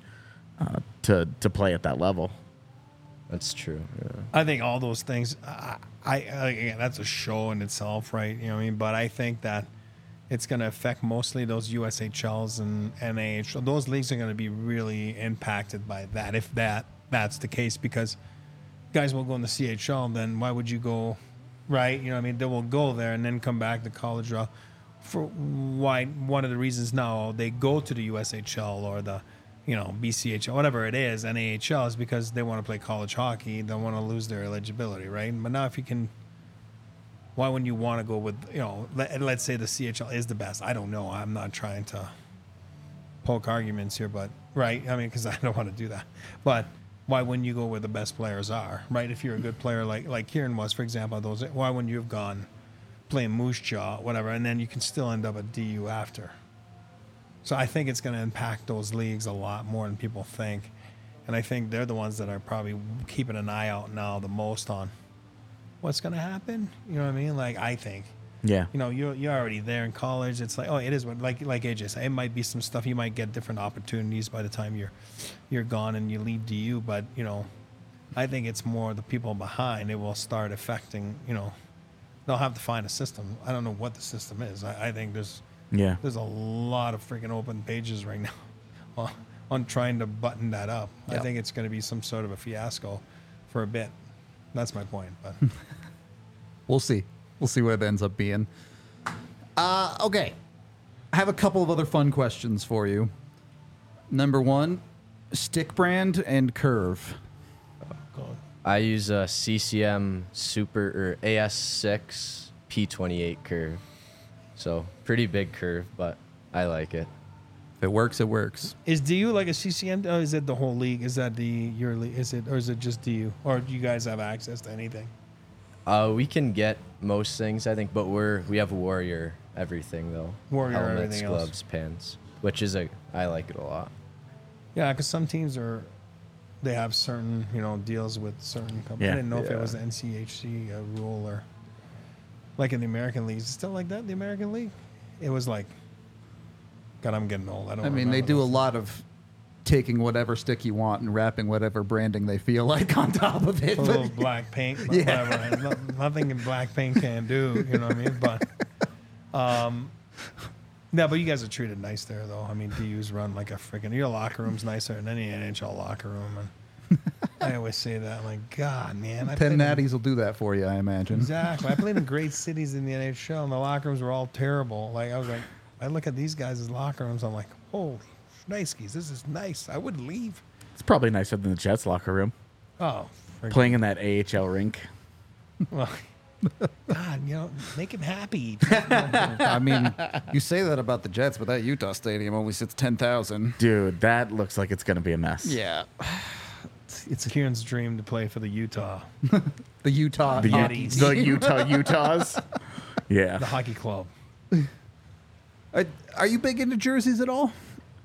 to play at that level. That's true. Yeah. I think all those things. Again, that's a show in itself, right? You know what I mean? But I think that it's going to affect mostly those USHLs and NAH. Those leagues are going to be really impacted by that, if that's the case, because guys will go in the CHL. Then why would you go, right? You know what I mean? They will go there and then come back to college. For why? One of the reasons now they go to the USHL or the BCHL, whatever it is, NAHL, is because they want to play college hockey. They want to lose their eligibility, right? But now if you can, why wouldn't you want to go with, let's say the CHL is the best. I don't know. I'm not trying to poke arguments here, but, right? I mean, because I don't want to do that. But why wouldn't you go where the best players are, right? If you're a good player like Kieran was, for example, why wouldn't you have gone playing Moose Jaw, whatever, and then you can still end up at DU after? So I think it's going to impact those leagues a lot more than people think. And I think they're the ones that are probably keeping an eye out now the most on what's going to happen. You know what I mean? Like, I think. Yeah. You're already there in college. It's like, it is what, like AJ said, it might be some stuff. You might get different opportunities by the time you're gone and you leave DU. But, I think it's more the people behind. It will start affecting, they'll have to find a system. I don't know what the system is. I think there's a lot of freaking open pages right now on trying to button that up. Yep. I think it's going to be some sort of a fiasco for a bit. That's my point. But We'll see. We'll see what it ends up being. Okay. I have a couple of other fun questions for you. Number one, stick brand and curve. I use a CCM Super or AS6 P28 curve. So pretty big curve, but I like it. If it works, it works. is DU like a CCM? Or is it the whole league? Is that your league? Is it just DU? Or do you guys have access to anything? We can get most things, I think, but we have Warrior everything though. Warrior helmets, everything else. gloves, pants, which is I like it a lot. Yeah, because some teams they have certain deals with certain companies. I didn't know if it Yeah. was an NCHC rule or like in the American League. Is it still like that? The American League? It was like, God, I'm getting old. I don't. I mean, they remember do a those lot of taking whatever stick you want and wrapping whatever branding they feel like on top of it. things. A little But black paint, but Yeah. whatever. Nothing in black paint can do. You know what I mean? But, yeah, but you guys are treated nice there, though. I mean, DU's run like a freaking. Your locker room's nicer than any NHL locker room, and I always say that. I'm like, God, man, I 10 played in- natties will do that for you, I imagine. Exactly. I played in great cities in the NHL, and the locker rooms were all terrible. Like I was like, I look at these guys' locker rooms, I'm like, holy shnikes, this is nice. I wouldn't leave. It's probably nicer than the Jets locker room. Oh, friggin- Playing in that AHL rink. well, God, make him happy. I mean, you say that about the Jets, but that Utah stadium only sits 10,000. Dude, that looks like it's going to be a mess. Yeah. It's Kieran's dream to play for the Utah, The Utah The, hockey the team. Utahs. Yeah. the hockey club. Are you big into jerseys at all?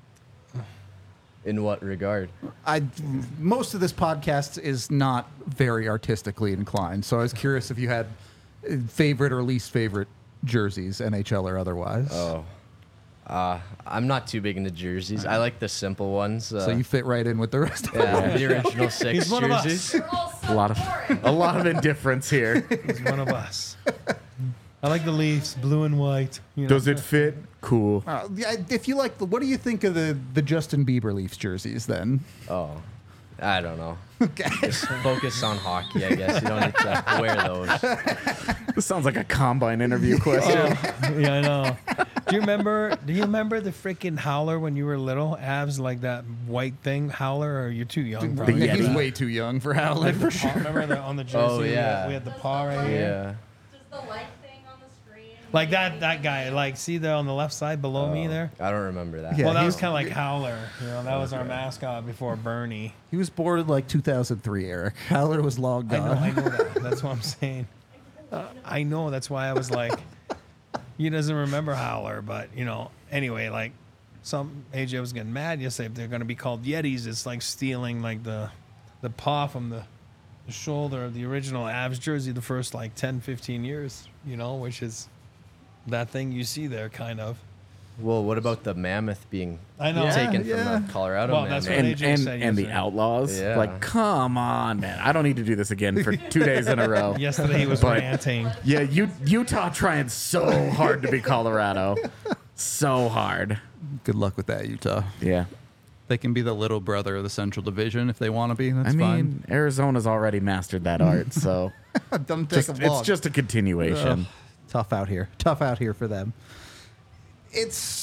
In what regard? Most of this podcast is not very artistically inclined, so I was curious if you had favorite or least favorite jerseys, NHL or otherwise. Oh, I'm not too big into jerseys. I like the simple ones. So you fit right in with the rest of us. yeah, the original 6 He's one of us. jerseys. A lot of indifference here. He's one of us. I like the Leafs, blue and white. You know. Does it fit? Cool. Yeah, if you like, what do you think of the Justin Bieber Leafs jerseys then? Oh, I don't know. Okay. Just focus on hockey, I guess. You don't need to wear those. This sounds like a combine interview question. Yeah, I know. Do you remember the freaking howler when you were little? Abs like that white thing, howler, or you're too young? Probably. Yeah, He's Yeti. way too young for Howland for sure. Remember on the jersey? Oh, yeah. we had the paw right here. Yeah. Just the light thing on the screen. Like that guy. Like, see there on the left side below me there. I don't remember that. Yeah, Well, that was he's- kind of like Howler. You know, that was our mascot before Bernie. He was born in like 2003, Eric. Howler was long gone. I know that. That's what I'm saying. I know. That's why I was like, he doesn't remember Howler, but you know. Anyway, like some AJ was getting mad yesterday. If they're going to be called Yetis, it's like stealing like the paw from the shoulder of the original Avs jersey the first like 10, 15 years. You know, which is that thing you see there, kind of. Well, what about the mammoth being I know. taken Yeah. from the Colorado Well, mammoth? that's what AJ said And the yesterday. Outlaws. Yeah. Like, come on, man. I don't need to do this again for 2 days in a row. Yesterday he was But- ranting. Yeah, Utah trying so hard to be Colorado. So hard. Good luck with that, Utah. Yeah. They can be the little brother of the Central Division if they want to be. That's I mean, fine. Arizona's already mastered that art, so Doesn't take just, them long. it's just a continuation. Ugh, tough out here. Tough out here for them. It's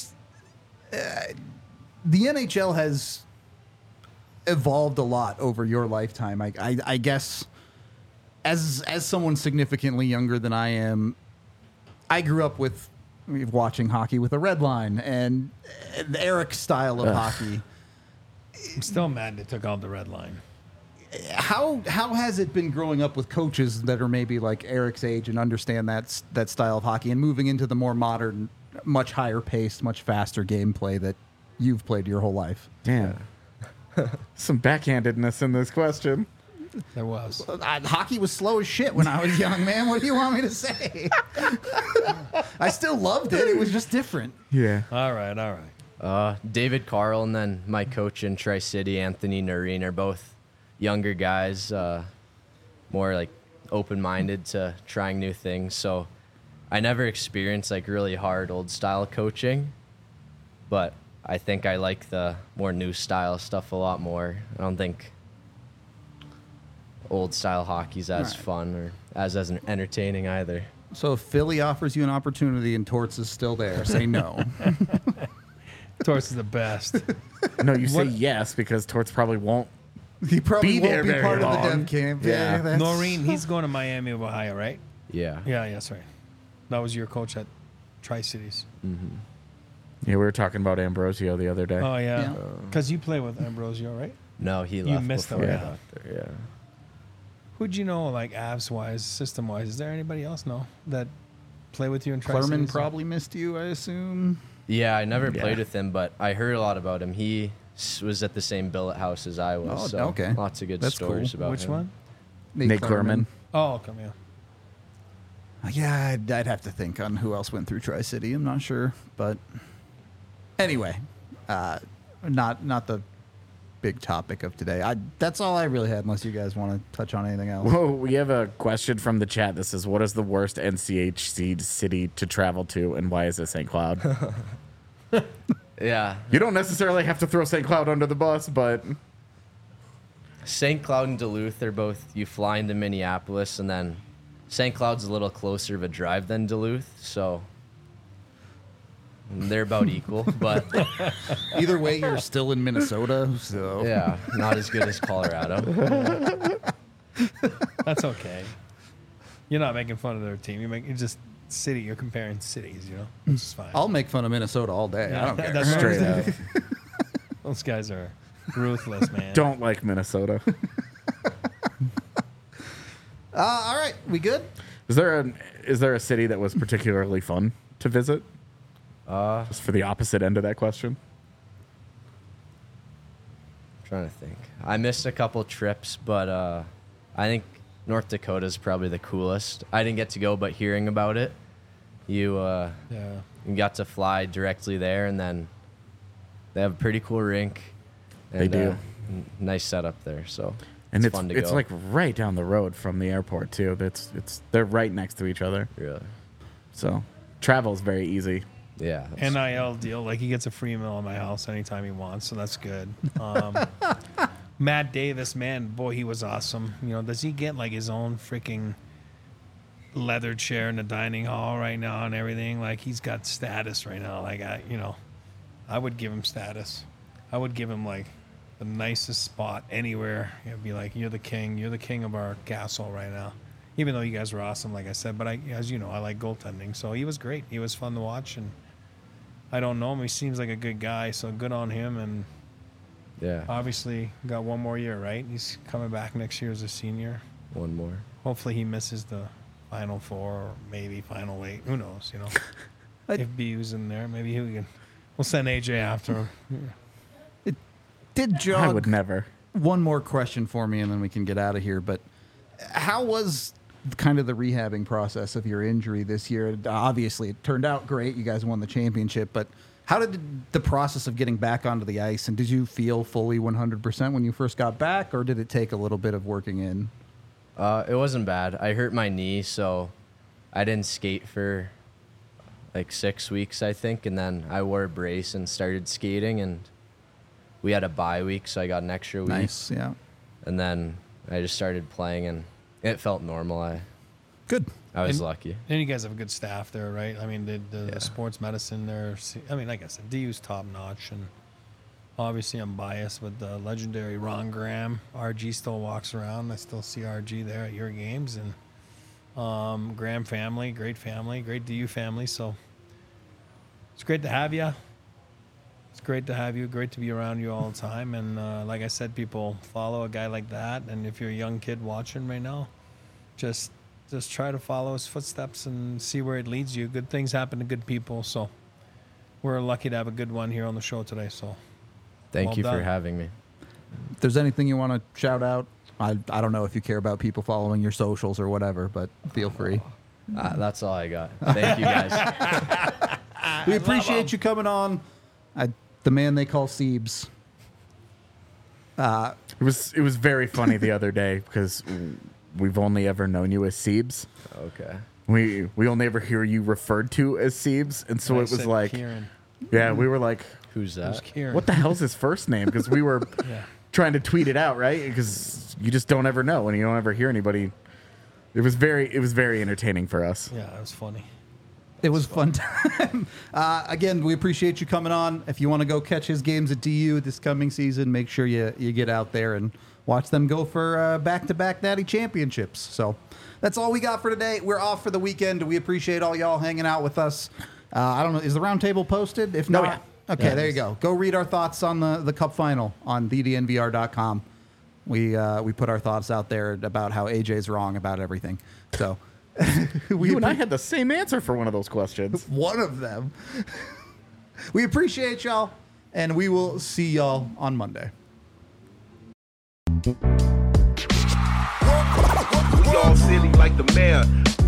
the NHL has evolved a lot over your lifetime. I guess as someone significantly younger than I am, I grew up with watching hockey with a red line and Eric's style of hockey. I'm still mad they took out the red line. How has it been growing up with coaches that are maybe like Eric's age and understand that style of hockey and moving into the more modern, much higher paced, much faster gameplay that you've played your whole life? Damn. Some backhandedness in this question. There was. Hockey was slow as shit when I was young, man. What do you want me to say? I still loved it. It was just different. Yeah. All right. David Carl and then my coach in Tri-City, Anthony Noreen, are both younger guys, more like open-minded to trying new things. So I never experienced like really hard old style coaching, but I think I like the more new style stuff a lot more. I don't think old style hockey's as Right. fun or as entertaining either. So if Philly offers you an opportunity and Torts is still there, say no. Torts is the best. No, you say What- yes because Torts probably won't. He probably Be there won't be very part of the long. dev camp. Yeah. that's- Noreen, he's going to Miami of Ohio, right? Yeah. Yeah, yes, right. That was your coach at Tri-Cities. Yeah, we were talking about Ambrosio the other day. Oh, yeah. Yeah. Because you play with Ambrosio, right? No, he left missed before him, I yeah. got there. Yeah. Who'd you know, like, abs-wise, system-wise? Is there anybody else, that play with you in Tri-Cities? Clerman probably missed you, I assume. Yeah, I never Yeah. played with him, but I heard a lot about him. He was at the same billet house as I was. Oh, so okay. lots of good That's stories cool. about Which him. one? Nate Clerman. Oh, come here. Yeah, I'd have to think on who else went through Tri-City. I'm not sure, but anyway, not the big topic of today. That's all I really had, unless you guys want to touch on anything else. Whoa, we have a question from the chat that says, what is the worst NCHC city to travel to, and why is it St. Cloud? Yeah. You don't necessarily have to throw St. Cloud under the bus, but St. Cloud and Duluth, they're both, you fly into Minneapolis, and then St. Cloud's a little closer of a drive than Duluth, so they're about equal. But Either way, you're still in Minnesota, so yeah, not as good as Colorado. That's okay. You're not making fun of their team. You're just city. You're comparing cities, you know? Which is fine. I'll make fun of Minnesota all day. I don't care. That's what I'm straight saying. up. Those guys are ruthless, man. Don't like Minnesota. All right, we good? Is there a city that was particularly fun to visit? Just for the opposite end of that question. Trying to think. I missed a couple trips, but I think North Dakota is probably the coolest. I didn't get to go, but hearing about it, you Yeah. We got to fly directly there, and then they have a pretty cool rink. And, They do. Nice setup there, so And it's fun to it's go. like right down the road from the airport too. They're right next to each other. Really. So travel's very easy. Yeah. that's- NIL deal. Like he gets a free meal in my house anytime he wants, so that's good. Matt Davis, man, boy, he was awesome. You know, does he get like his own freaking leather chair in the dining hall right now and everything? Like he's got status right now. Like I would give him status. I would give him like the nicest spot anywhere. It'd be like, you're the king of our castle right now. Even though you guys were awesome, like I said, but as you know, I like goaltending, so he was great. He was fun to watch, and I don't know him. He seems like a good guy, so good on him. And yeah. obviously, got one more year, right? He's coming back next year as a senior. One more. Hopefully, he misses the Final Four or maybe Final 8. Who knows? You know, I- if BU's in there, maybe we'll send AJ after him. Did I jog would never. one more question for me, and then we can get out of here. But how was kind of the rehabbing process of your injury this year? Obviously, it turned out great. You guys won the championship, but how did the process of getting back onto the ice, and did you feel fully 100% when you first got back, or did it take a little bit of working in? It wasn't bad. I hurt my knee, so I didn't skate for like 6 weeks, I think, and then I wore a brace and started skating, and we had a bye week, so I got an extra week. Nice, yeah. And then I just started playing, and it felt normal. I Good. was And- lucky. And you guys have a good staff there, right? I mean, the Yeah. sports medicine there. I mean, like I said, DU's top notch, and obviously I'm biased with the legendary Ron Graham. RG still walks around. I still see RG there at your games, and Graham family, great DU family. So it's great to have you. It's great to have you. Great to be around you all the time. And like I said, people follow a guy like that. And if you're a young kid watching right now, just try to follow his footsteps and see where it leads you. Good things happen to good people. So we're lucky to have a good one here on the show today. So Thank Well you for done. having me. If there's anything you want to shout out, I don't know if you care about people following your socials or whatever, but feel free. That's all I got. Thank you, guys. We appreciate you coming on. The man they call Siebes. It was very funny the other day because we've only ever known you as Siebes. Okay. We only ever hear you referred to as Siebes, and so I it was said like, Kieran. yeah, we were like, Who's Who's that? Kieran? what the hell's his first name? Because we were Yeah. trying to tweet it out, right? Because you just don't ever know, and you don't ever hear anybody. It was very entertaining for us. Yeah, it was funny. It was fun time. Again, we appreciate you coming on. If you want to go catch his games at DU this coming season, make sure you get out there and watch them go for back-to-back Natty championships. So that's all we got for today. We're off for the weekend. We appreciate all y'all hanging out with us. I don't know, is the roundtable posted? If not, yeah. okay, Yeah, it there you is. go. Go read our thoughts on the Cup final on thednvr.com. We put our thoughts out there about how AJ's wrong about everything. So You and I had the same answer for one of those questions. one of them. We appreciate y'all, and we will see y'all on Monday. We all silly like the mayor.